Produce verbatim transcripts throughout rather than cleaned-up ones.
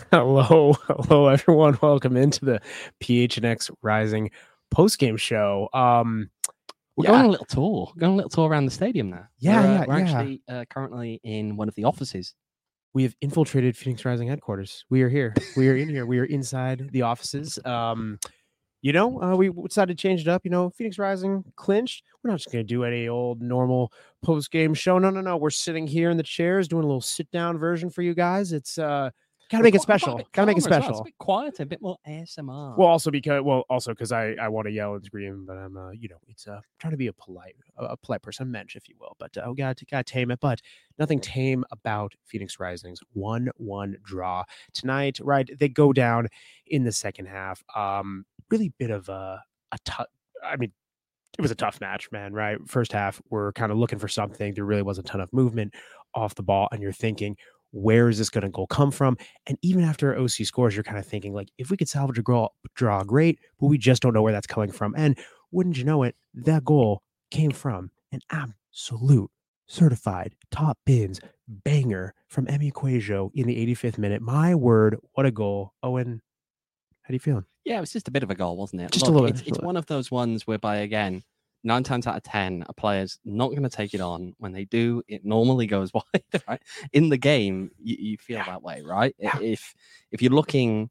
Hello, hello, everyone. Welcome into the P H N X Rising post-game show. Um, We're yeah, going on a little tour. We're going on a little tour around the stadium now. Yeah, we're, uh, yeah, we're yeah. actually uh, currently in one of the offices. We have infiltrated Phoenix Rising headquarters. We are here. We are in here. We are inside the offices. Um, you know, uh, we decided to change it up. You know, Phoenix Rising clinched. We're not just going to do any old normal post-game show. No, no, no. We're sitting here in the chairs doing a little sit-down version for you guys. It's uh, gotta make it special. Gotta make it special. Well. It's a bit quieter, a bit more A S M R. Well, also because well, also because I, I want to yell and scream, but I'm uh, you know, it's uh trying to be a polite a, a polite person, a mensch, if you will. But uh, we got to got to tame it. But nothing tame about Phoenix Rising's one one draw tonight. Right, they go down in the second half. Um, really bit of a a tough. I mean, it was a tough match, man. Right, first half we're kind of looking for something. There really wasn't a ton of movement off the ball, and you're thinking, where is this going to go come from? And even after O C scores, you're kind of thinking, like, if we could salvage a draw, draw, great, but we just don't know where that's coming from. And wouldn't you know it, that goal came from an absolute certified top bins banger from Emi Quajo in the eighty-fifth minute. My word, what a goal. Owen, how do you feel? Yeah, it was just a bit of a goal, wasn't it? Just Look, a little it's, bit. It's one of those ones whereby, again, nine times out of ten, a player's not going to take it on. When they do, it normally goes wide, right? In the game, you, you feel yeah. that way, right? Yeah. If if you're looking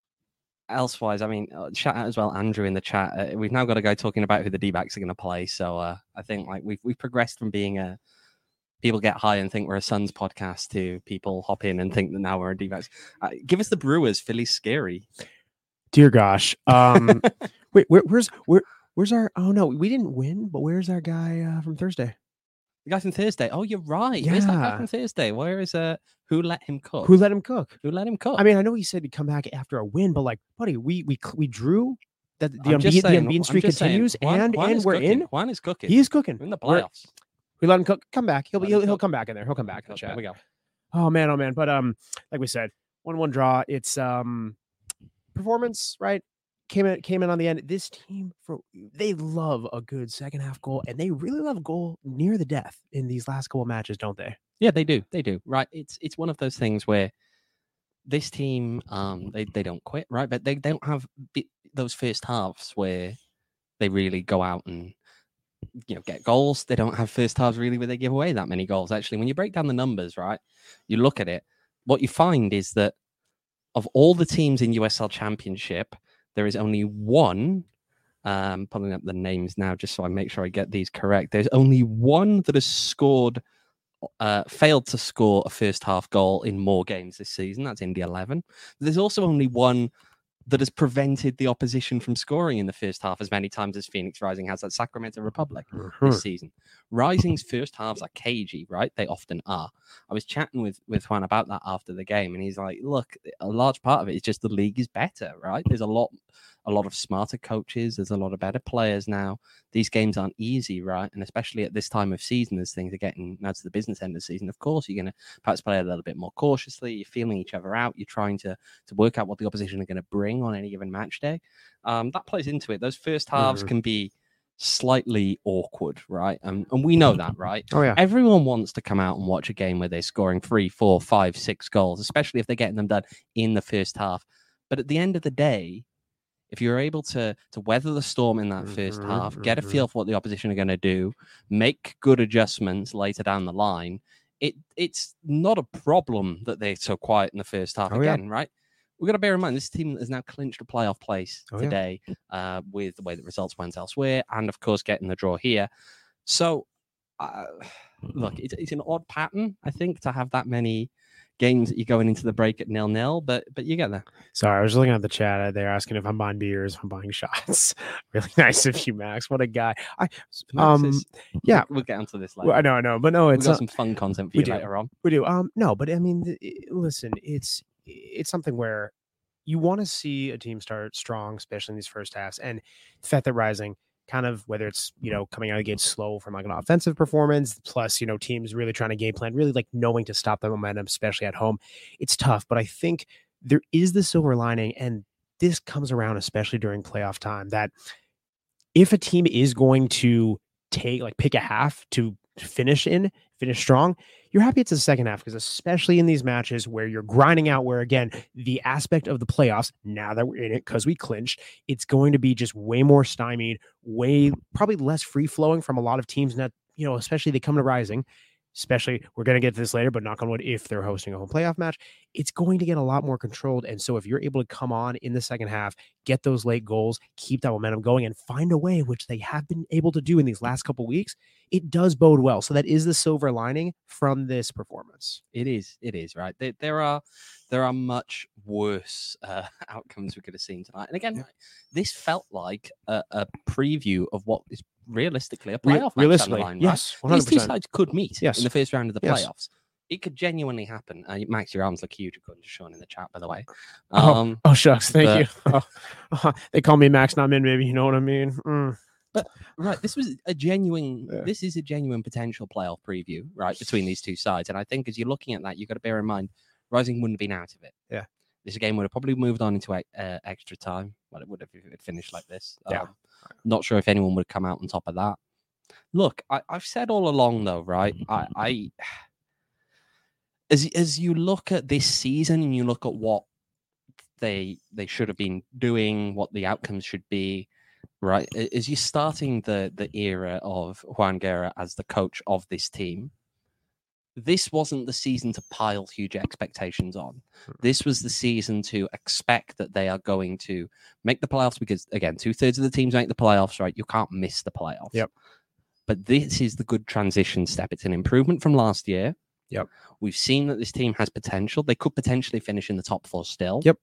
elsewise, I mean, uh, shout out as well, Andrew, in the chat. Uh, we've now got a guy talking about who the D-backs are going to play. So uh, I think like we've, we've progressed from being a people get high and think we're a Suns podcast to people hop in and think that now we're a D-backs. Uh, give us the Brewers, Philly's scary. Dear gosh. Um, wait, where, where's where where's our? Oh no, we didn't win. But where's our guy uh, from Thursday? The guy from Thursday. Oh, you're right. Yeah. Where's that guy from Thursday? Where is uh? Who let him cook? Who let him cook? Who let him cook? I mean, I know he said he'd come back after a win, but like, buddy, we we we drew that the unbeaten the unbeaten streak continues, saying, Juan, and Juan and we're cooking. in. Juan is cooking. He is cooking. We're in the playoffs. We're, we let him cook. Come back. He'll be he'll, he'll come back in there. He'll come back in the chat. There we go. Oh man, oh man. But um, like we said, one one draw. It's um, performance, right? Came in, came in on the end. This team, for they love a good second half goal, and they really love a goal near the death in these last couple of matches, don't they? Yeah, they do. They do. Right. It's it's one of those things where this team, um, they, they don't quit, right? But they, they don't have those first halves where they really go out and you know get goals. They don't have first halves really where they give away that many goals. Actually, when you break down the numbers, right, you look at it, what you find is that of all the teams in U S L Championship, there is only one, um, pulling up the names now just so I make sure I get these correct. There's only one that has scored, uh, failed to score a first half goal in more games this season. That's Indy eleven. There's also only one that has prevented the opposition from scoring in the first half as many times as Phoenix Rising has at Sacramento Republic mm-hmm. this season. Rising's first halves are cagey, right? They often are. I was chatting with, with Juan about that after the game, and he's like, look, a large part of it is just the league is better, right? There's a lot a lot of smarter coaches. There's a lot of better players now. These games aren't easy, right? And especially at this time of season, as things are getting now to the business end of the season, of course, you're going to perhaps play a little bit more cautiously. You're feeling each other out. You're trying to, to work out what the opposition are going to bring on any given match day. Um, that plays into it. Those first halves mm-hmm. can be slightly awkward, right? And, and we know that, right? Oh, yeah. Everyone wants to come out and watch a game where they're scoring three, four, five, six goals, especially if they're getting them done in the first half. But at the end of the day, if you're able to to weather the storm in that mm-hmm, first half, mm-hmm. get a feel for what the opposition are going to do, make good adjustments later down the line, it it's not a problem that they're so quiet in the first half oh, again, yeah. right? We've got to bear in mind, this team has now clinched a playoff place oh, today yeah. uh, with the way the results went elsewhere and, of course, getting the draw here. So, uh, look, it's, it's an odd pattern, I think, to have that many games that you're going into the break at nil-nil, but but you get there. Sorry, I was looking at the chat. They're asking if I'm buying beers, if I'm buying shots. Really nice of you, Max. What a guy. I um is, yeah, we'll get onto this later. Well, I know, I know, but no, it's We've got uh, some fun content for you do. later on. We do. Um, no, but I mean, listen, it's it's something where you want to see a team start strong, especially in these first halves, and the fact that Rising kind of, whether it's, you know, coming out of the gate slow from like an offensive performance, plus, you know, teams really trying to game plan, really like knowing to stop the momentum, especially at home. It's tough, but I think there is the silver lining, and this comes around, especially during playoff time, that if a team is going to take, like pick a half to finish in, finish strong, you're happy it's the second half, because especially in these matches where you're grinding out, where again, the aspect of the playoffs, now that we're in it because we clinched, it's going to be just way more stymied, way probably less free flowing from a lot of teams. That, you know, especially they come to Rising, especially, we're going to get to this later, but knock on wood, if they're hosting a home playoff match, it's going to get a lot more controlled. And so if you're able to come on in the second half, get those late goals, keep that momentum going, and find a way, which they have been able to do in these last couple of weeks, it does bode well. So that is the silver lining from this performance. It is. It is, right? There, there are there are much worse uh, outcomes we could have seen tonight. And again, yeah. this felt like a, a preview of what is realistically a playoff Re- match down the line, yes, right? These two sides could meet yes. in the first round of the yes. playoffs. It could genuinely happen. Uh, Max, your arms look huge, according to Sean in the chat, by the way. Um, oh, oh, shucks. Thank but, you. Oh, oh, they call me Max, not Min, baby. You know what I mean? Mm. But right, this was a genuine. Yeah. This is a genuine potential playoff preview, right, between these two sides. And I think as you're looking at that, you've got to bear in mind, Rising wouldn't have been out of it. Yeah. This game would have probably moved on into uh, extra time. Well, it would have if it finished like this. Yeah. Um, not sure if anyone would have come out on top of that. Look, I, I've said all along, though, right? I, I as as you look at this season and you look at what they they should have been doing, what the outcomes should be, right? As you're starting the the era of Juan Guerra as the coach of this team, this wasn't the season to pile huge expectations on. This was the season to expect that they are going to make the playoffs, because again, two thirds of the teams make the playoffs, right? You can't miss the playoffs. Yep. But this is the good transition step. It's an improvement from last year. Yep. We've seen that this team has potential. They could potentially finish in the top four still. Yep.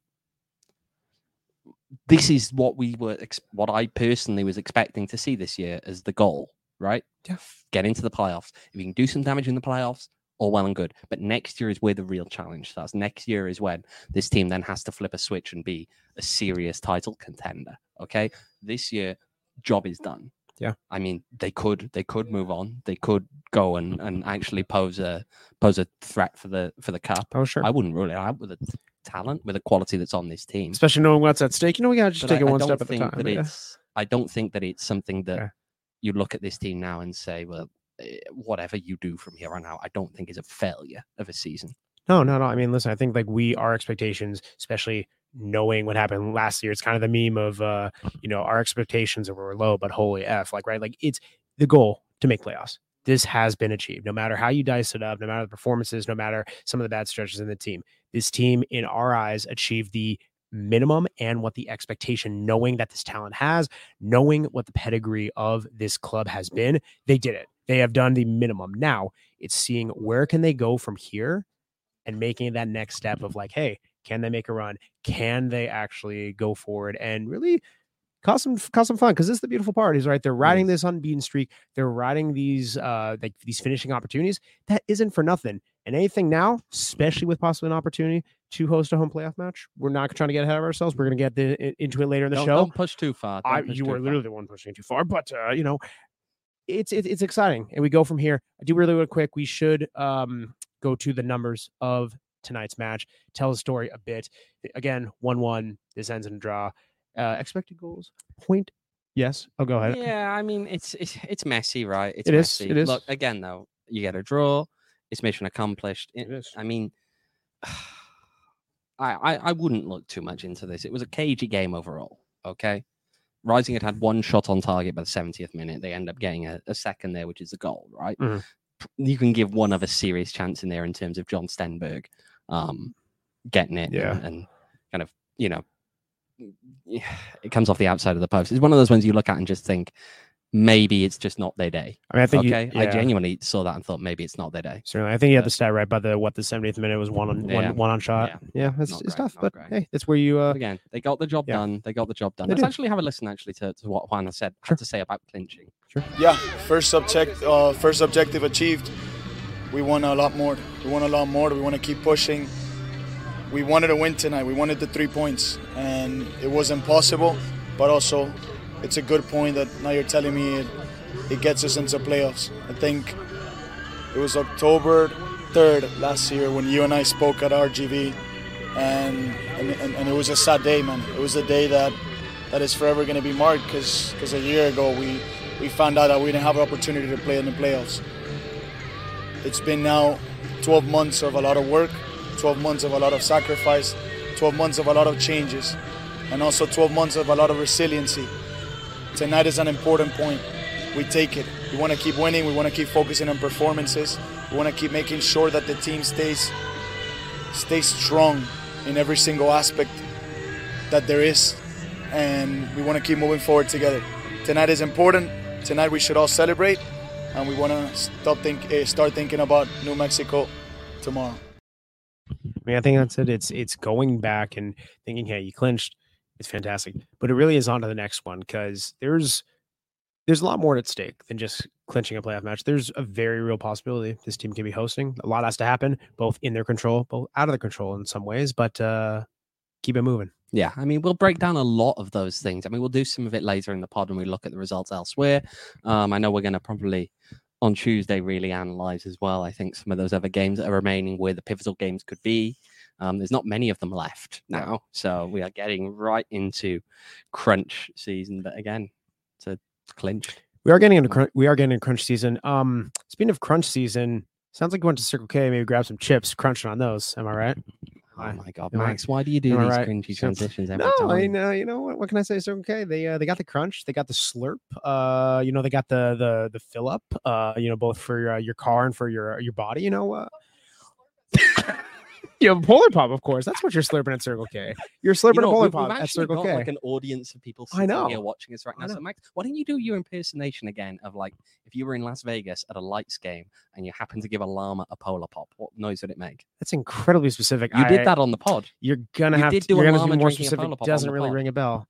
This is what we were, what I personally was expecting to see this year as the goal, right? Yeah. Get into the playoffs. If you can do some damage in the playoffs, all well and good. But next year is where the real challenge starts. Next year is when this team then has to flip a switch and be a serious title contender. Okay. This year, job is done. Yeah. I mean, they could they could move on. They could go and, and actually pose a pose a threat for the for the cup. Oh, sure. I wouldn't rule it out with the talent, with the quality that's on this team. Especially knowing what's at stake. You know, we gotta just But take I, it one I step at think a time. That Yeah. it's, I don't think that it's something that Yeah. you look at this team now and say, well, eh, whatever you do from here on out, I don't think is a failure of a season. No, no, no. I mean, listen, I think like we, our expectations, especially knowing what happened last year, it's kind of the meme of, uh, you know, our expectations were low, but holy F, like, right? Like it's the goal to make playoffs. This has been achieved. No matter how you dice it up, no matter the performances, no matter some of the bad stretches in the team, this team in our eyes achieved the minimum and what the expectation, knowing that this talent has, knowing what the pedigree of this club has been, they did it. They have done the minimum. Now it's seeing where can they go from here and making that next step of like, hey, can they make a run? Can they actually go forward and really cause some cause some fun? Because this is the beautiful part, is right. They're riding this unbeaten streak. They're riding these uh like these finishing opportunities. That isn't for nothing. And anything now, especially with possibly an opportunity to host a home playoff match, we're not trying to get ahead of ourselves. We're going to get the, into it later in the don't, show. Don't push too far. Don't I, push you too were far. literally the one pushing too far, but uh, you know, it's it, it's exciting, and we go from here. I do really real quick. We should um go to the numbers of tonight's match. Tell the story a bit. Again, one one. This ends in a draw. Uh, expected goals, point. Yes. Oh, go ahead. Yeah, I mean, it's it's it's messy, right? It's It is, messy. it is. Look, again, though, you get a draw. It's mission accomplished. It, It is. I mean, I, I I wouldn't look too much into this. It was a cagey game overall. Okay, Rising had had one shot on target by the seventieth minute. They end up getting a, a second there, which is a goal, right? Mhm. You can give one other serious chance in there in terms of John Stenberg um, getting it Yeah. and, and kind of, you know, it comes off the outside of the post. It's one of those ones you look at and just think, maybe it's just not their day. I mean, I think you- okay, I yeah. genuinely saw that and thought maybe it's not their day. Certainly, I think you had But- the stat right. By the what the seventieth minute was one on Yeah. one one on shot. Yeah. Yeah, it's, Not it's great, tough, not but great. hey, that's where you. Uh, But again, they got the job yeah. done. They got the job done. They Let's did. actually have a listen actually to, to what Juan has said Sure. had to say about clinching. Yeah, first subject, uh, first objective achieved. We won a lot more. We won a lot more. We want to keep pushing. We wanted to win tonight. We wanted the three points, and it wasn't possible. But also, it's a good point that now you're telling me it, it gets us into playoffs. I think it was October third last year when you and I spoke at R G V, and and, and, and it was a sad day, man. It was a day that that is forever going to be marked because a year ago we. We found out that we didn't have an opportunity to play in the playoffs. It's been now twelve months of a lot of work, twelve months of a lot of sacrifice, twelve months of a lot of changes, and also twelve months of a lot of resiliency. Tonight is an important point. We take it. We want to keep winning. We want to keep focusing on performances. We want to keep making sure that the team stays, stays strong in every single aspect that there is. And we want to keep moving forward together. Tonight is important. Tonight we should all celebrate. And we want to stop think, uh, start thinking about New Mexico tomorrow. I mean, I think that's it. It's it's going back and thinking, hey, you clinched. It's fantastic. But it really is on to the next one because there's there's a lot more at stake than just clinching a playoff match. There's a very real possibility this team can be hosting. A lot has to happen, both in their control, both out of their control in some ways, but uh, keep it moving. Yeah, I mean, we'll break down a lot of those things. I mean, we'll do some of it later in the pod when we look at the results elsewhere. Um, I know we're going to probably on Tuesday really analyze as well. I think some of those other games that are remaining where the pivotal games could be. Um, there's not many of them left now, so we are getting right into crunch season. But again, it's a clinch. We are getting into crunch, we are getting into crunch season. Um, speaking of crunch season, sounds like you went to Circle K, maybe grab some chips, crunching on those. Am I right? Oh my God, Am I- Max! Why do you do am I these right? cringy So- transitions every No, time? I know. You know what? What can I say? Circle K. They uh, they got the crunch. They got the slurp. Uh, you know, they got the the the fill up. Uh, you know, both for your, uh, your car and for your your body. You know. Uh, you have a Polar Pop, of course. That's what you're slurping at Circle K. You're slurping You know, a Polar we've, Pop we've at actually Circle got K. like an audience of people I sitting know. here watching us right I now. So, know. Max, why don't you do your impersonation again of like if you were in Las Vegas at a lights game and you happened to give a llama a Polar Pop, what noise would it make? That's incredibly specific. You I- did that on the pod. You're gonna You have did to. do You're a gonna llama be more drinking a specific. Polar Pop on Doesn't the really pod. ring a bell.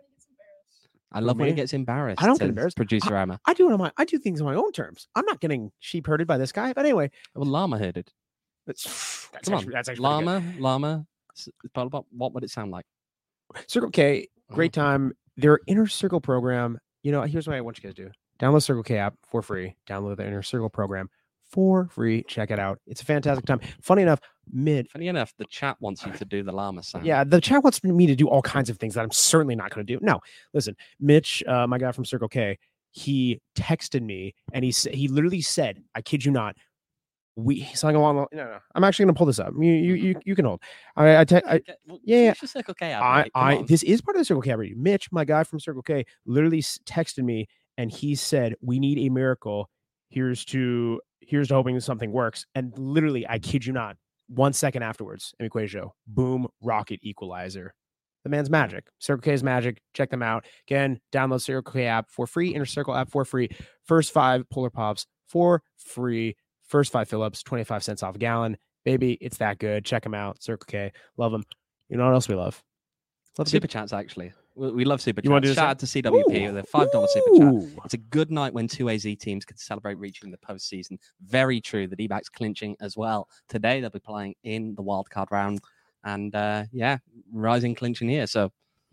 I love when he me? gets embarrassed. I don't get says embarrassed. Producer Emma. I do it on my. I do things on my own terms. I'm not getting sheep herded by this guy. But anyway, Well, llama herded. that's that's Come actually, on, that's actually pretty good. llama, llama, s- Polar Pop. What would it sound like? Circle K, great Uh-huh. time. Their Inner Circle program. You know, here's what I want you guys to do: download Circle K app for free. Download the Inner Circle program for free. Check it out. It's a fantastic time. Funny enough, mid. Funny enough, the chat wants you to do the llama sound. Yeah, the chat wants me to do all kinds of things that I'm certainly not going to do. No, listen, Mitch, uh, my guy from Circle K, he texted me and he sa- he literally said, "I kid you not." We he's like along. No, no, I'm actually going to pull this up. You you you, you can hold. I I, te- I Okay, well, yeah, finish the Circle K ad, I, mate. Come I on. this is part of the Circle K already. Mitch, my guy from Circle K, literally s- texted me and he said, "We need a miracle. Here's to here's to hoping something works." And literally, I kid you not, one second afterwards, Equatio, boom, rocket equalizer. The man's magic. Circle K is magic. Check them out. Again, download Circle K app for free. Inner Circle app for free. First five Polar Pops for free. First five fill-ups, twenty-five cents off a gallon. Baby, it's that good. Check them out. Circle K. Love them. You know what else we love? Love Super chats, actually. We, we love super You wanna chats. do the Shout same? out to C W P with a five dollar super chat. Ooh. It's a good night when two A Z teams can celebrate reaching the postseason. Very true. The D-backs clinching as well. Today, they'll be playing in the wildcard round. And uh, yeah, rising clinching here. So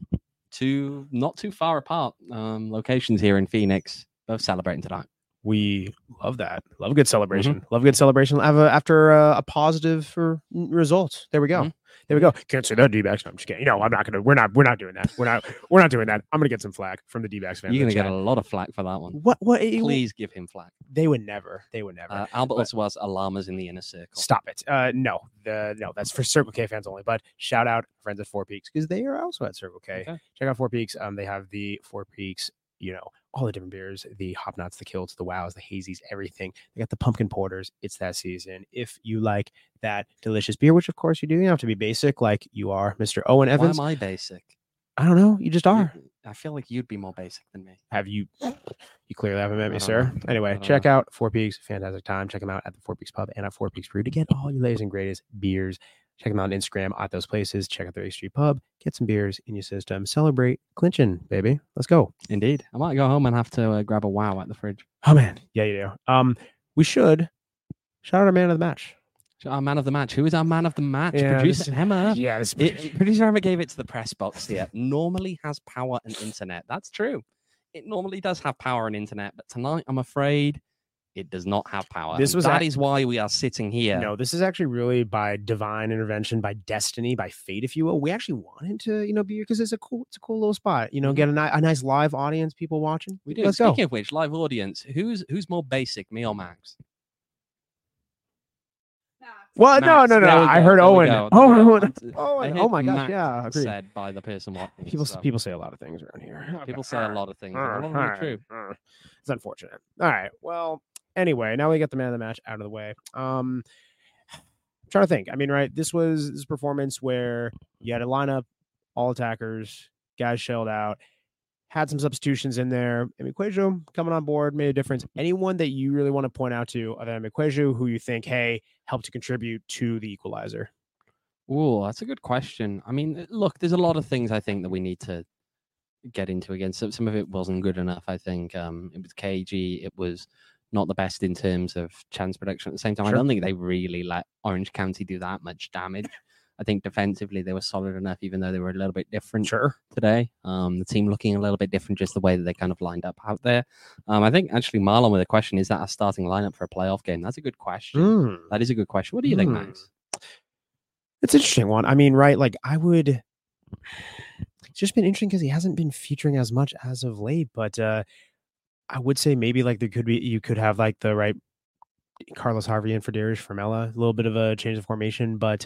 two, not too far apart um, locations here in Phoenix, both celebrating tonight. We love that. Love a good celebration. Love a good celebration. Have a, after a, a positive for results. There we go. Mhm. There we go. Can't say that D-backs. No, I'm just kidding. You know, I'm not gonna. We're not. We're not doing that. We're not. We're not doing that. I'm gonna get some flack from the D-backs fans. You're in going to the get a chat. lot of flack for that one. What? What? it- Please give him flack. They would never. They would never. Uh, Albert But- also was llamas in the inner circle. Stop it. Uh, no, the no, that's for Circle K fans only. But shout out friends at Four Peaks because they are also at Circle K. Okay. Check out Four Peaks. Um, they have the Four Peaks. You know, all the different beers, the hop nuts, the kilts, the wows, the hazies, everything. They got the pumpkin porters. It's that season. If you like that delicious beer, which of course you do, you don't have to be basic like you are, Mister Owen Why Evans. am I basic? I don't know. You just are. You- I feel like you'd be more basic than me. Have you? You clearly haven't met I me, don't sir. know. I Anyway, don't check know. out Four Peaks. Fantastic time. Check them out at the Four Peaks Pub and at Four Peaks Brew to get all your latest and greatest beers. Check them out on Instagram at those places. Check out their A Street Pub. Get some beers in your system. Celebrate clinching, baby. Let's go. Indeed. I might go home and have to uh, grab a wow at the fridge. Oh man, yeah, you do. Um, we should shout out our man of the match. Our man of the match. Who is our man of the match? Yeah, Producer this- Emma. Yeah, this It, producer Emma gave it to the press box here. Normally has power and internet. That's true. It normally does have power and internet, but tonight I'm afraid it does not have power. This And was that ac- is why we are sitting here. No, this is actually really by divine intervention, by destiny, by fate, if you will. We actually wanted to, you know, be here because it's a cool, it's a cool little spot. You know, Mhm. get a, ni- a nice live audience, people watching. We do. Let's Speaking go. of which, live audience, who's who's more basic, me or Max? Well, no, Max, no, no. there we I go, heard there we Owen. go, Oh, there we go. Owen. I Owen. heard Oh my gosh, Max yeah. Agreed. said by the person watching. People so. people say a lot of things around here. People say a lot of things, and a lot of them are true. It's unfortunate. All right. Well, anyway, now we get the man of the match out of the way. Um, I'm trying to think. I mean, right? This was this performance where you had a lineup, all attackers, guys shelled out, had some substitutions in there. I mean, Quajo coming on board made a difference. Anyone that you really want to point out to other than Quajo who you think, hey, helped to contribute to the equalizer? Oh, that's a good question. I mean, look, there's a lot of things I think that we need to get into again. So some of it wasn't good enough. I think um, it was K G. It was not the best in terms of chance production. At the same time, Sure. I don't think they really let Orange County do that much damage. I think defensively they were solid enough, even though they were a little bit different Sure. today. Um, the team looking a little bit different, just the way that they kind of lined up out there. Um, I think actually Marlon with a question: is that a starting lineup for a playoff game? That's a good question. Mm. That is a good question. What do you think, Mm. Max? It's an interesting one. I mean, right? Like, I would. It's just been interesting because he hasn't been featuring as much as of late. But uh, I would say maybe like there could be you could have like the right Carlos Harvey and for Darius Formella, a little bit of a change of formation, but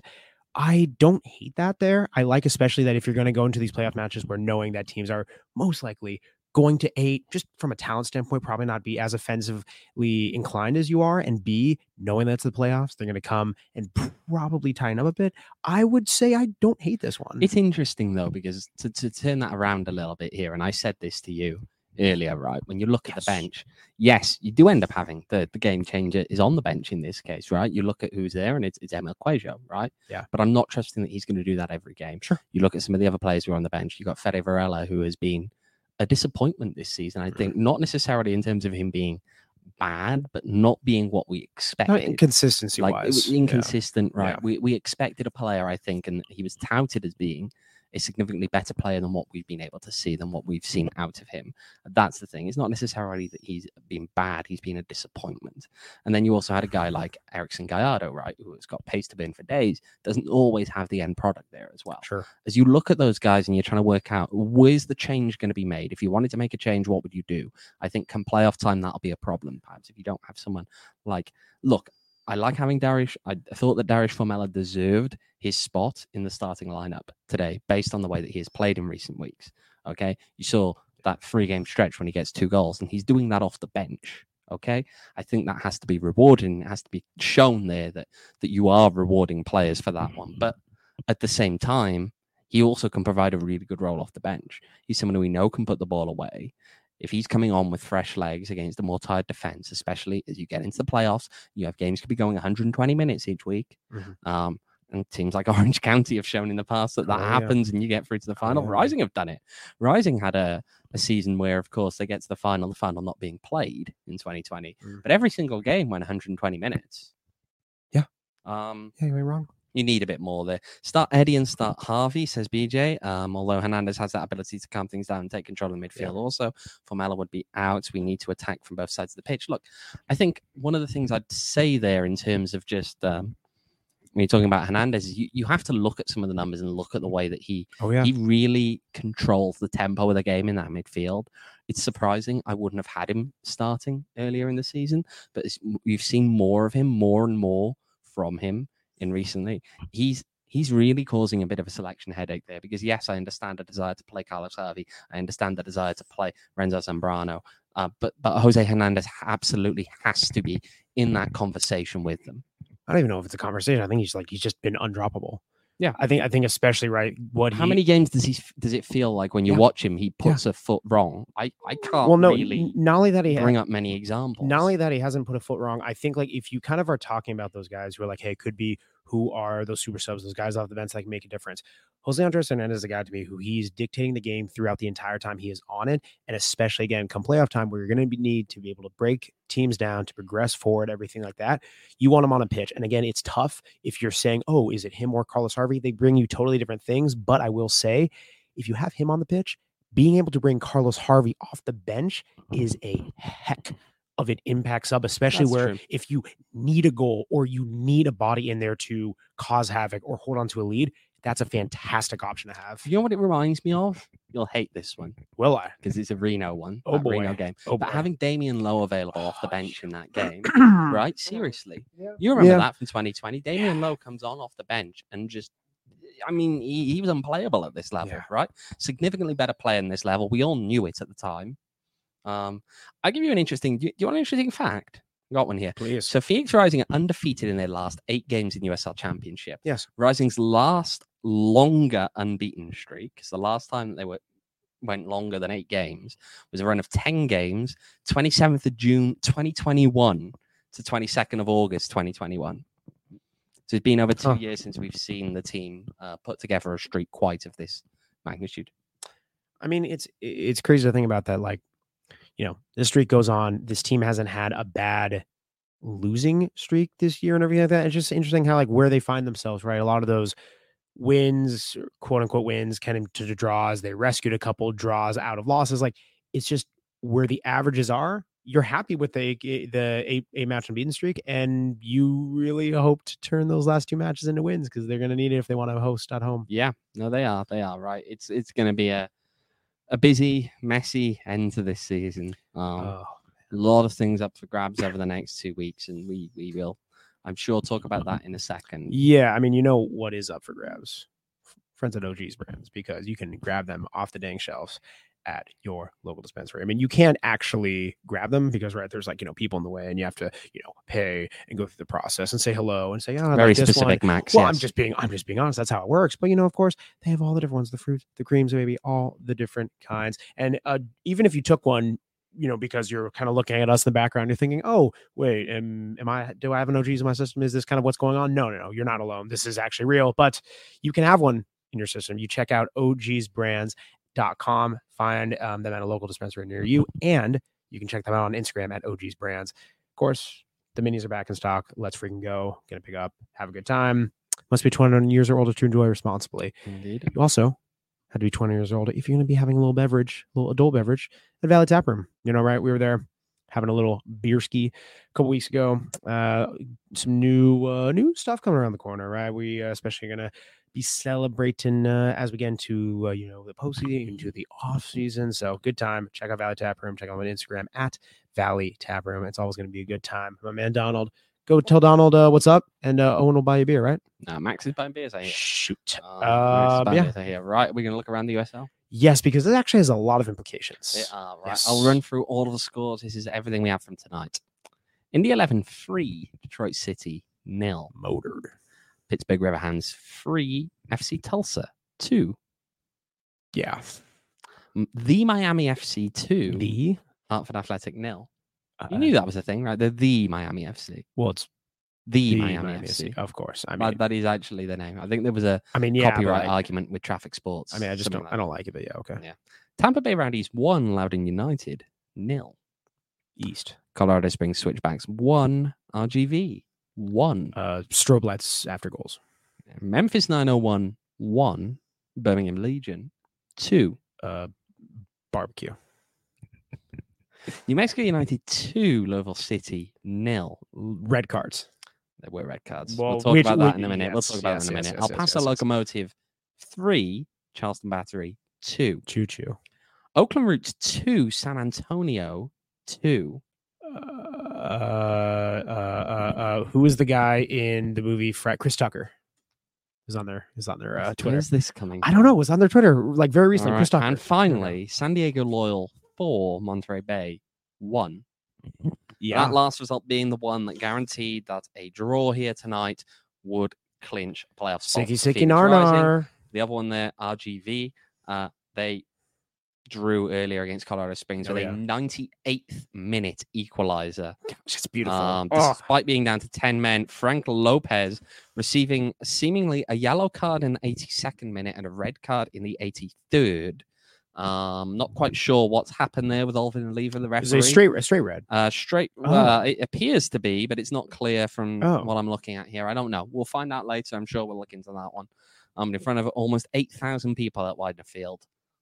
I don't hate that there. I like especially that if you're going to go into these playoff matches where knowing that teams are most likely going to A, just from a talent standpoint, probably not be as offensively inclined as you are, and B, knowing that's the playoffs, they're going to come and probably tighten up a bit. I would say I don't hate this one. It's interesting though, because to, to turn that around a little bit here, and I said this to you earlier, right? When you look at Yes. the bench, yes, you do end up having the, the game changer is on the bench in this case, right? You look at who's there, and it's, it's Emil Quajo, right? Yeah. But I'm not trusting that he's going to do that every game. Sure. You look at some of the other players who are on the bench. You got Fede Varela, who has been a disappointment this season. I think not necessarily in terms of him being bad, but not being what we No, expected. inconsistency Like it was wise. inconsistent, right? Yeah. We we expected a player, I think, and he was touted as being a significantly better player than what we've been able to see, than what we've seen out of him. That's the thing. It's not necessarily that he's been bad, he's been a disappointment. And then you also had a guy like Erickson Gallardo, right, who has got pace to burn for days, doesn't always have the end product there as well. Sure. As you look at those guys and you're trying to work out where's the change going to be made, if you wanted to make a change, what would you do? I think come playoff time, that'll be a problem, perhaps, if you don't have someone like, look, I like having Darius. I thought that Darius Formella deserved his spot in the starting lineup today based on the way that he has played in recent weeks. Okay. You saw that three game stretch when he gets two goals, and he's doing that off the bench. Okay. I think that has to be rewarded, and it has to be shown there that, that you are rewarding players for that one. But at the same time, he also can provide a really good role off the bench. He's someone who we know can put the ball away. If he's coming on with fresh legs against a more tired defense, especially as you get into the playoffs, you have games could be going one hundred twenty minutes each week. Mhm. Um, and teams like Orange County have shown in the past that that Oh, yeah. happens and you get through to the final. yeah. Rising have done it. Rising had a, a season where, of course, they get to the final, the final not being played in twenty twenty. Mm. But every single game went one hundred twenty minutes. Yeah. Um, Yeah, you ain't wrong. you need a bit more there. Start Eddie and start Harvey, says B J. Um, although Hernandez has that ability to calm things down and take control of the midfield Yeah. also. Formella would be out. We need to attack from both sides of the pitch. Look, I think one of the things I'd say there in terms of just um, when you're talking about Hernandez is you, you have to look at some of the numbers and look at the way that he Oh, yeah. he really controls the tempo of the game in that midfield. It's surprising. I wouldn't have had him starting earlier in the season, but it's, we've seen more of him, more and more from him in recently. He's he's really causing a bit of a selection headache there because, yes, I understand the desire to play Carlos Harvey. I understand the desire to play Renzo Zambrano. Uh, but, but Jose Hernandez absolutely has to be in that conversation with them. I don't even know if it's a conversation. I think he's like he's just been undroppable. Yeah. I think I think especially right what How he, many games does he does it feel like when you Yeah. watch him, he puts a foot wrong? I, I can't well no really n- not only that he bring ha- up many examples. not only that he hasn't put a foot wrong. I think like if you kind of are talking about those guys who are like, hey, could be who are those super subs, those guys off the bench that can make a difference. Jose Andres Hernandez is a guy to me who he's dictating the game throughout the entire time he is on it, and especially again come playoff time where you're going to need to be able to break teams down, to progress forward, everything like that. You want him on a pitch, and again, it's tough if you're saying, oh, is it him or Carlos Harvey? They bring you totally different things, but I will say, if you have him on the pitch, being able to bring Carlos Harvey off the bench is a heck of an impact sub, especially That's where true. if you need a goal or you need a body in there to cause havoc or hold on to a lead, that's a fantastic option to have. You know what it reminds me of? You'll hate this one Will I? because it's a Reno one. Oh, that Reno boy. game. Oh, but boy. having Damian Lowe available off the Oh, bench in that game, right? right? Seriously. You remember Yeah. that from twenty twenty? Damian Lowe comes on off the bench and just, I mean, he, he was unplayable at this level, Yeah. right? Significantly better player in this level. We all knew it at the time. Um, I'll give you an interesting, do you, do you want an interesting fact? Got one here. Please. So Phoenix Rising are undefeated in their last eight games in U S L Championship. Yes. Rising's last longer unbeaten streak, because the last time they were went longer than eight games was a run of ten games, twenty-seventh of June, twenty twenty-one to twenty-second of August, twenty twenty-one. So it's been over two Huh. years since we've seen the team uh, put together a streak quite of this magnitude. I mean, it's it's crazy to think about that. Like, you know, this streak goes on. This team hasn't had a bad losing streak this year and everything like that. It's just interesting how like where they find themselves, right? A lot of those wins, quote unquote wins, kind of to the draws. They rescued a couple draws out of losses. Like it's just where the averages are. You're happy with the the eight, eight match unbeaten streak, and you really hope to turn those last two matches into wins because they're going to need it if they want to host at home. Yeah, no, they are. They are right. It's it's going to be a a busy, messy end to this season. Um, Oh. A lot of things up for grabs over the next two weeks, and we we will, I'm sure, talk about that in a second. Yeah, I mean, you know what is up for grabs? Friends at O G's Brands, because you can grab them off the dang shelves at your local dispensary. I mean, you can't actually grab them because, right, there's like, you know, people in the way and you have to, you know, pay and go through the process and say hello and say, oh, I Very like this specific, one. Max. Well, yes. I'm just being, I'm just being honest. That's how it works. But, you know, of course, they have all the different ones, the fruit, the creams, maybe all the different kinds. And uh, even if you took one, you know, because you're kind of looking at us in the background, you're thinking, oh, wait, am, am I, do I have an O G's in my system? Is this kind of what's going on? No, no, no, you're not alone. This is actually real, but you can have one in your system. You check out O Gs brands dot com, find um, them at a local dispensary near you, and you can check them out on Instagram at O Gs Brands. Of course, the minis are back in stock. Let's freaking go. Gonna pick up, have a good time. Must be twenty-one years or older to enjoy responsibly. Indeed. You also had to be twenty years old if you're going to be having a little beverage, a little adult beverage at Valley Tap Room. You know, right? We were there having a little beer ski a couple weeks ago. Uh, some new uh, new stuff coming around the corner, right? We uh, especially going to be celebrating uh, as we get into uh, you know, the postseason, into the off season. So good time. Check out Valley Tap Room. Check out my Instagram at Valley Tap Room. It's always going to be a good time. My man Donald. Go tell Donald uh, what's up, and uh, Owen will buy you a beer, right? No, Max is buying beers, I hear. Shoot. Um, Max is Uh, buying yeah. beers, I hear. Right, we're going to look around the U S L. Yes, because it actually has a lot of implications. They are, right. Yes. I'll run through all of the scores. This is everything we have from tonight. Indy eleven three, Detroit City nil. Motored. Pittsburgh Riverhands three, F C Tulsa two. Yeah. M- The Miami F C two, The Hartford Athletic nil. uh, You knew that was a thing, right? They're the Miami F C. well, it's The, the Miami, Miami F C. of course. I mean, That- that is actually the name. I think there was a I mean, yeah, but copyright like, argument with Traffic Sports. I mean, I just something don't, like I don't like it, but yeah, okay. Yeah. Tampa Bay Rowdies one, Loudoun United nil. East. Colorado Springs Switchbacks one, R G V one. Uh, strobe lights after goals. Memphis nine oh one one, Birmingham Legion two. Uh, barbecue. New Mexico United two, Louisville City nil. Red cards. There were red cards. Well, we'll talk which- about that which- in a minute. we'll yes, talk about yes, that in a yes, minute. yes, El yes, Paso yes, yes. Locomotive three, Charleston Battery two. Choo choo. Oakland Roots two, San Antonio two. Uh, uh, uh, uh, who is the guy in the movie Fred? Chris Tucker is on there. Is on their uh, Twitter. Where's this coming I don't know. It was on their Twitter like very recently. All Chris right, Tucker. and finally, San Diego Loyal four, Monterey Bay one. yeah. That last result being the one that guaranteed that a draw here tonight would clinch a playoff spot. Sicky for sicky Phoenix nar Rising. nar. The other one there, R G V, uh, they drew earlier against Colorado Springs Oh, with yeah. a ninety-eighth minute equalizer. It's beautiful. Um, Oh. despite being down to ten men, Frank Lopez receiving seemingly a yellow card in the eighty-second minute and a red card in the eighty-third. Um, not quite sure what's happened there with Alvin Lever, the It's referee. a straight, a straight red. Uh, straight. Oh. Uh, it appears to be, but it's not clear from Oh. what I'm looking at here. I don't know. We'll find out later. I'm sure we'll look into that one. Um, in front of almost eight thousand people at Widener Field.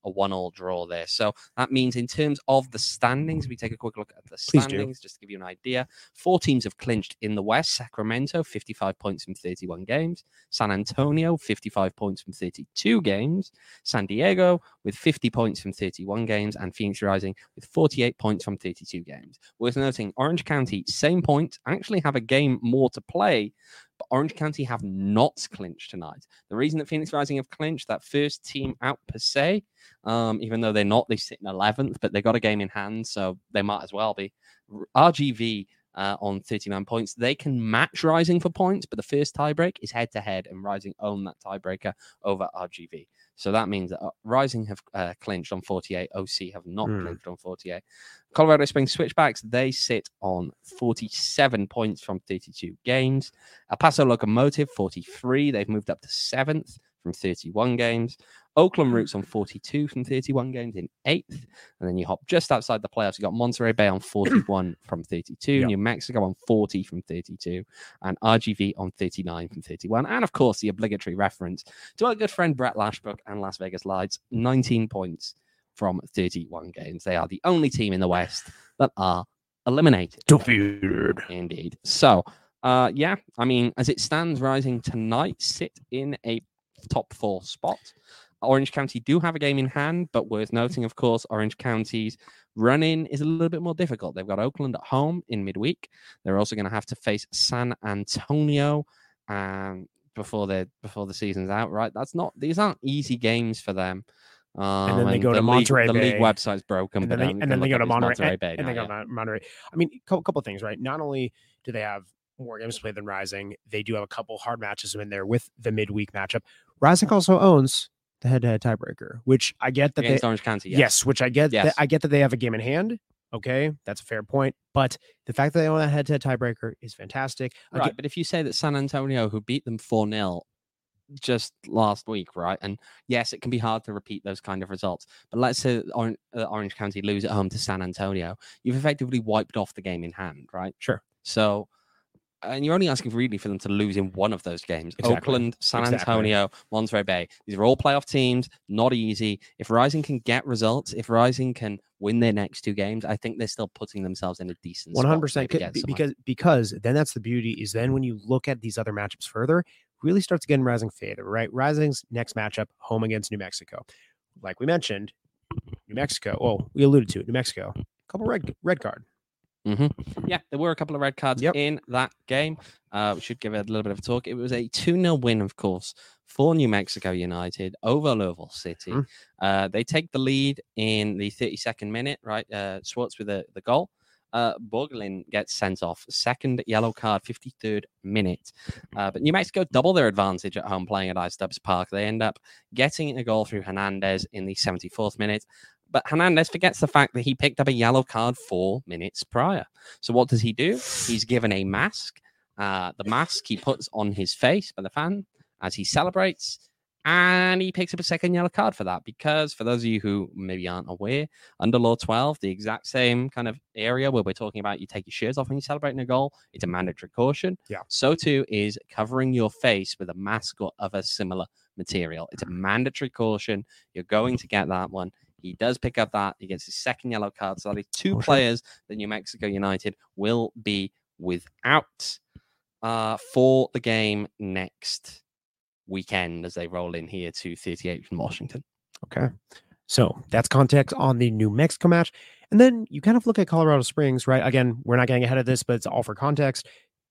a one-all draw there. So that means in terms of the standings, if we take a quick look at the Please standings, just to give you an idea, four teams have clinched in the West. Sacramento, fifty-five points from thirty-one games. San Antonio, fifty-five points from thirty-two games. San Diego with fifty points from thirty-one games. And Phoenix Rising with forty-eight points from thirty-two games. Worth noting, Orange County, same point, actually have a game more to play, but Orange County have not clinched tonight. The reason that Phoenix Rising have clinched, that first team out per se, um, even though they're not, they sit in eleventh, but they got a game in hand, so they might as well be. R G V uh, on thirty-nine points. They can match Rising for points, but the first tiebreak is head-to-head, and Rising own that tiebreaker over R G V. So that means that uh, Rising have uh, clinched on forty-eight. O C have not mm. clinched on forty-eight. Colorado Springs Switchbacks, they sit on forty-seven points from thirty-two games. El Paso Locomotive, forty-three. They've moved up to seventh from thirty-one games. Oakland Roots on forty-two from thirty-one games in eighth. And then you hop just outside the playoffs. You got Monterey Bay on forty-one from thirty-two. Yep. New Mexico on forty from thirty-two. And R G V on thirty-nine from thirty-one. And of course, the obligatory reference to our good friend Brett Lashbrook and Las Vegas Lights, nineteen points from thirty-one games. They are the only team in the West that are eliminated. Defeated. Indeed. So, uh, yeah, I mean, as it stands, Rising tonight sit in a top four spot. Orange County do have a game in hand, but worth noting, of course, Orange County's run-in is a little bit more difficult. They've got Oakland at home in midweek. They're also going to have to face San Antonio um, before they before the season's out. Right? That's not; these aren't easy games for them. Um, and then they go the to Monterey league, Bay. The league website's broken, and then but they, um, and then they go to Monterey, Monterey Bay. And now, they go yeah. to Monterey. I mean, a couple of things, right? Not only do they have more games played than Rising, they do have a couple hard matches in there with the midweek matchup. Rising also owns the head-to-head tiebreaker, which I get that Against they Orange County. Yes, yes which I get. Yes. That, I get that they have a game in hand. Okay, that's a fair point. But the fact that they own that head-to-head tiebreaker is fantastic. Right, Again, but if you say that San Antonio, who beat them four nil just last week, right? And yes, it can be hard to repeat those kind of results. But let's say Orange, uh, Orange County lose at home to San Antonio. You've effectively wiped off the game in hand, right? Sure. So, and you're only asking really for them to lose in one of those games. Exactly. Oakland, San Exactly. Antonio, Monterey Bay. These are all playoff teams, not easy. If Rising can get results, if Rising can win their next two games, I think they're still putting themselves in a decent one hundred percent spot. Be- because because then that's the beauty is then when you look at these other matchups further, really starts getting Rising favor, right? Rising's next matchup, home against New Mexico. Like we mentioned, New Mexico, well, we alluded to it, New Mexico, a couple red red card. Mm-hmm. Yeah, there were a couple of red cards yep. in that game. Uh, we should give it a little bit of a talk. It was a two nil win, of course, for New Mexico United over Louisville City. Mm. Uh, they take the lead in the thirty-second minute, right? Uh, Swartz with the, the goal. Uh, Borgelin gets sent off. Second yellow card, fifty-third minute. Uh, but New Mexico double their advantage at home playing at Ice Dubs Park. They end up getting a goal through Hernandez in the seventy-fourth minute. But Hernandez forgets the fact that he picked up a yellow card four minutes prior. So what does he do? He's given a mask. Uh, the mask he puts on his face by the fan as he celebrates. And he picks up a second yellow card for that. Because for those of you who maybe aren't aware, under Law twelve, the exact same kind of area where we're talking about you take your shirts off when you're celebrating a goal, it's a mandatory caution. Yeah. So too is covering your face with a mask or other similar material. It's a mandatory caution. You're going to get that one. He does pick up that. He gets his second yellow card. So that is two oh, players sure. that New Mexico United will be without uh, for the game next weekend as they roll in here to thirty-eight from Washington. Okay. So that's context on the New Mexico match. And then you kind of look at Colorado Springs, right? Again, we're not getting ahead of this, but it's all for context.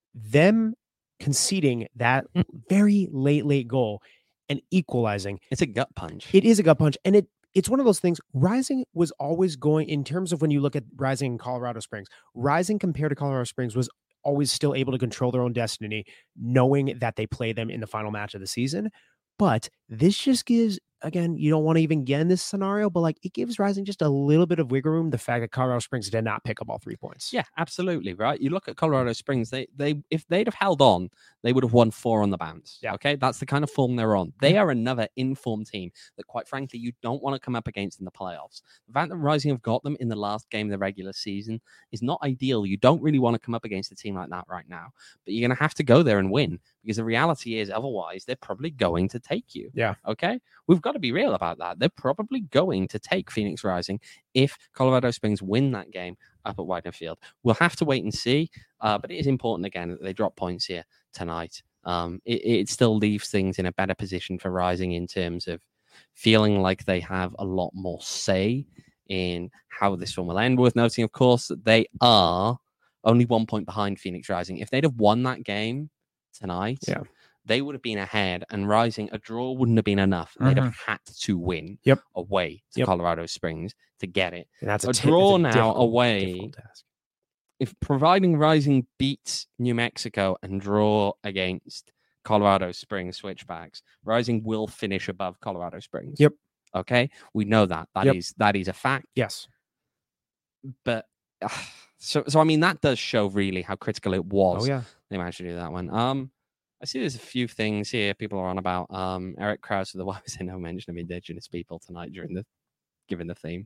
Them conceding that very late, late goal and equalizing. It's a gut punch. It is a gut punch. And it It's one of those things. Rising was always going, in terms of when you look at Rising in Colorado Springs, Rising compared to Colorado Springs was always still able to control their own destiny, knowing that they play them in the final match of the season. But this just gives, again, you don't want to even get in this scenario, but like it gives Rising just a little bit of wiggle room. The fact that Colorado Springs did not pick up all three points. Yeah, absolutely. Right. You look at Colorado Springs, they, they, if they'd have held on, they would have won four on the bounce. Yeah. Okay. That's the kind of form they're on. They are another informed team that, quite frankly, you don't want to come up against in the playoffs. The fact that Rising have got them in the last game of the regular season is not ideal. You don't really want to come up against a team like that right now, but you're going to have to go there and win because the reality is otherwise they're probably going to take you. Yeah. Yeah. Okay. We've got to be real about that. They're probably going to take Phoenix Rising if Colorado Springs win that game up at Widener Field. We'll have to wait and see. Uh, but it is important, again, that they drop points here tonight. Um, it, it still leaves things in a better position for Rising in terms of feeling like they have a lot more say in how this one will end. Worth noting, of course, that they are only one point behind Phoenix Rising. If they'd have won that game tonight, yeah. they would have been ahead, and Rising, a draw wouldn't have been enough. They'd Mhm. have had to win Yep. away to Yep. Colorado Springs to get it. And that's A t- draw that's now difficult- away. difficult task. If providing Rising beats New Mexico and draw against Colorado Springs Switchbacks, Rising will finish above Colorado Springs. Yep. Okay, we know that. That Yep. is that is a fact. Yes. But uh, so so I mean that does show really how critical it was. Oh yeah. They managed to do that one. Um, I see there's a few things here people are on about. Um, Eric Krause with the why was there no mention of Indigenous people tonight during the given the theme.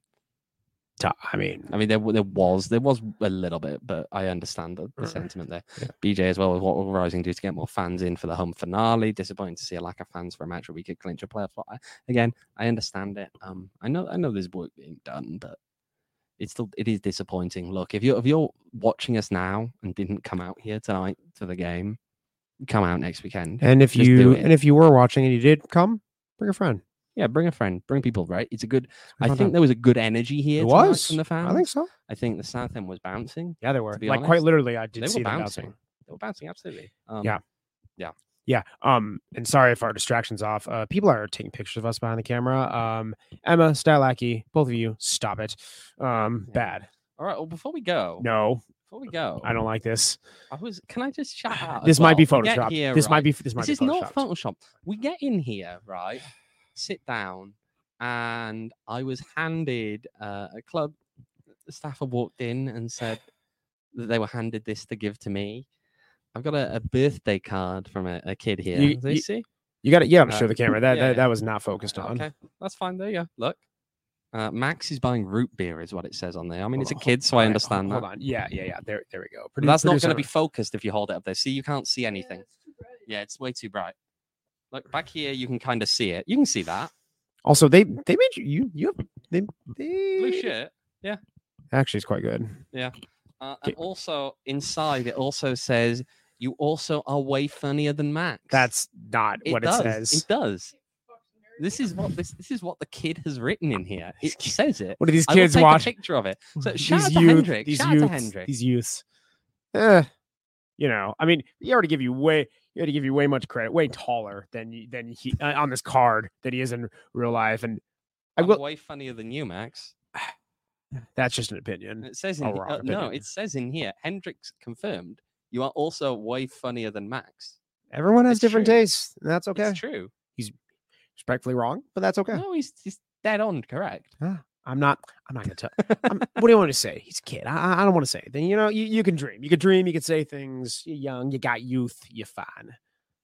T- I mean, I mean, there there was there was a little bit, but I understand the, the Mhm. sentiment there. Yeah. B J as well with what will Rising do to get more fans in for the home finale. Disappointing to see a lack of fans for a match where we could clinch a playoff spot. I, again, I understand it. Um, I know I know there's work being done, but it's still it is disappointing. Look, if you're if you're watching us now and didn't come out here tonight to the game, come out next weekend. and if Just do you it. and if you were watching and you did come, bring a friend. Yeah, bring a friend, bring people. Right? It's a good. I fun think time. there was a good energy here. It tonight was from the fans. I think so. I think the South End was bouncing. Yeah, they were. To be Like quite honest, literally, I did They see were them bouncing. bouncing. They were bouncing absolutely. Um, Yeah. Yeah. Um, and sorry if our distraction's off. Uh, people are taking pictures of us behind the camera. Um, Emma, Stylaki, both of you, stop it. Um, Yeah. bad. All right. Well, before we go, No, before we go, I don't like this. I was. Can I just shout out? as This might be well? We get photoshopped. here, This might right? be. This might This be is not photoshopped. Photoshop. We get in here, right? Sit down, and I was handed uh, a club. The staffer walked in and said that they were handed this to give to me. I've got a, a birthday card from a, a kid here. You- Do you you- see? You got to. You got to Uh, show the camera. That yeah, that, yeah. that was not focused on. Okay, that's fine. There you go. Look. Uh, Max is buying root beer, is what it says on there. I mean, it's a Hold- kid, so all I right, understand hold, that. Hold on. Yeah, yeah, yeah. There, there we go. But that's not Producer- going to be focused if you hold it up there. See, you can't see anything. Yeah, it's way too bright. Look back here, you can kind of see it. You can see that Also, they they made you you you have they, they blue shirt. Actually, it's quite good. Uh, and Okay. also inside, it also says you also are way funnier than Max. That's not it what does. it says. It does. This is what this this is what the kid has written in here. It says it. What do these I will kids take watch? a picture of it. So These shout out to youth- Hendrik. These Shout out to youths, Hendrik. These youths. Eh, you know, I mean, he already give you way, he already give you way much credit, way taller than you- than he uh, on this card than he is in real life, and I I'm will. way funnier than you, Max. That's just an opinion. It says in A he- wrong uh, no, opinion. it says in here. Hendrix confirmed. You are also way funnier than Max. Everyone has It's different true. tastes, and that's okay. It's true. Respectfully wrong, but that's okay. No, he's, he's dead on correct. I'm not. I'm not gonna tell. I'm, what do you want me to say? He's a kid. I, I don't want to say it. Then you know, you, you can dream. You can dream. You can say things. You're young. You got youth. You're fine.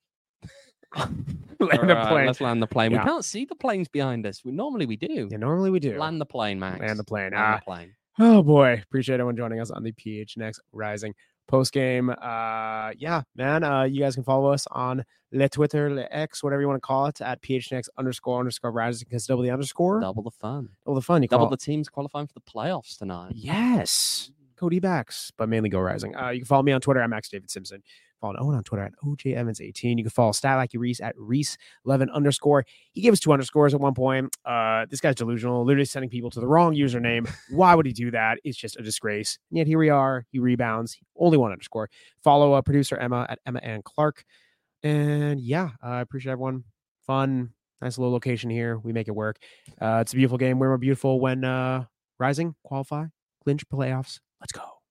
Land All the right, plane. let's land the plane. Yeah. We can't see the planes behind us. We normally we do. Yeah, normally we do. Land the plane, Max. Land the plane. Land Ah, the plane. oh boy, appreciate everyone joining us on the P H N X Rising post game. Uh, yeah, man. Uh, you guys can follow us on Le Twitter, Le X, whatever you want to call it, at P H N X underscore underscore Rising. Because double the underscore, Double the fun. double the fun. You Double call the teams qualifying for the playoffs tonight. Yes. Cody backs, but mainly Go Rising. Uh, you can follow me on Twitter at Max David Simpson. Follow Owen on Twitter at O J Evans eighteen. You can follow Stat Like Reese at Reese eleven underscore. He gave us two underscores at one point. Uh, this guy's delusional, literally sending people to the wrong username. Why would he do that? It's just a disgrace. And yet here we are. He rebounds. Only one underscore. Follow uh, producer Emma at Emma Ann Clark. And yeah, I uh, appreciate everyone. Fun, nice little location here. We make it work. Uh, it's a beautiful game. We're more beautiful when uh, Rising qualify, clinch playoffs. Let's go.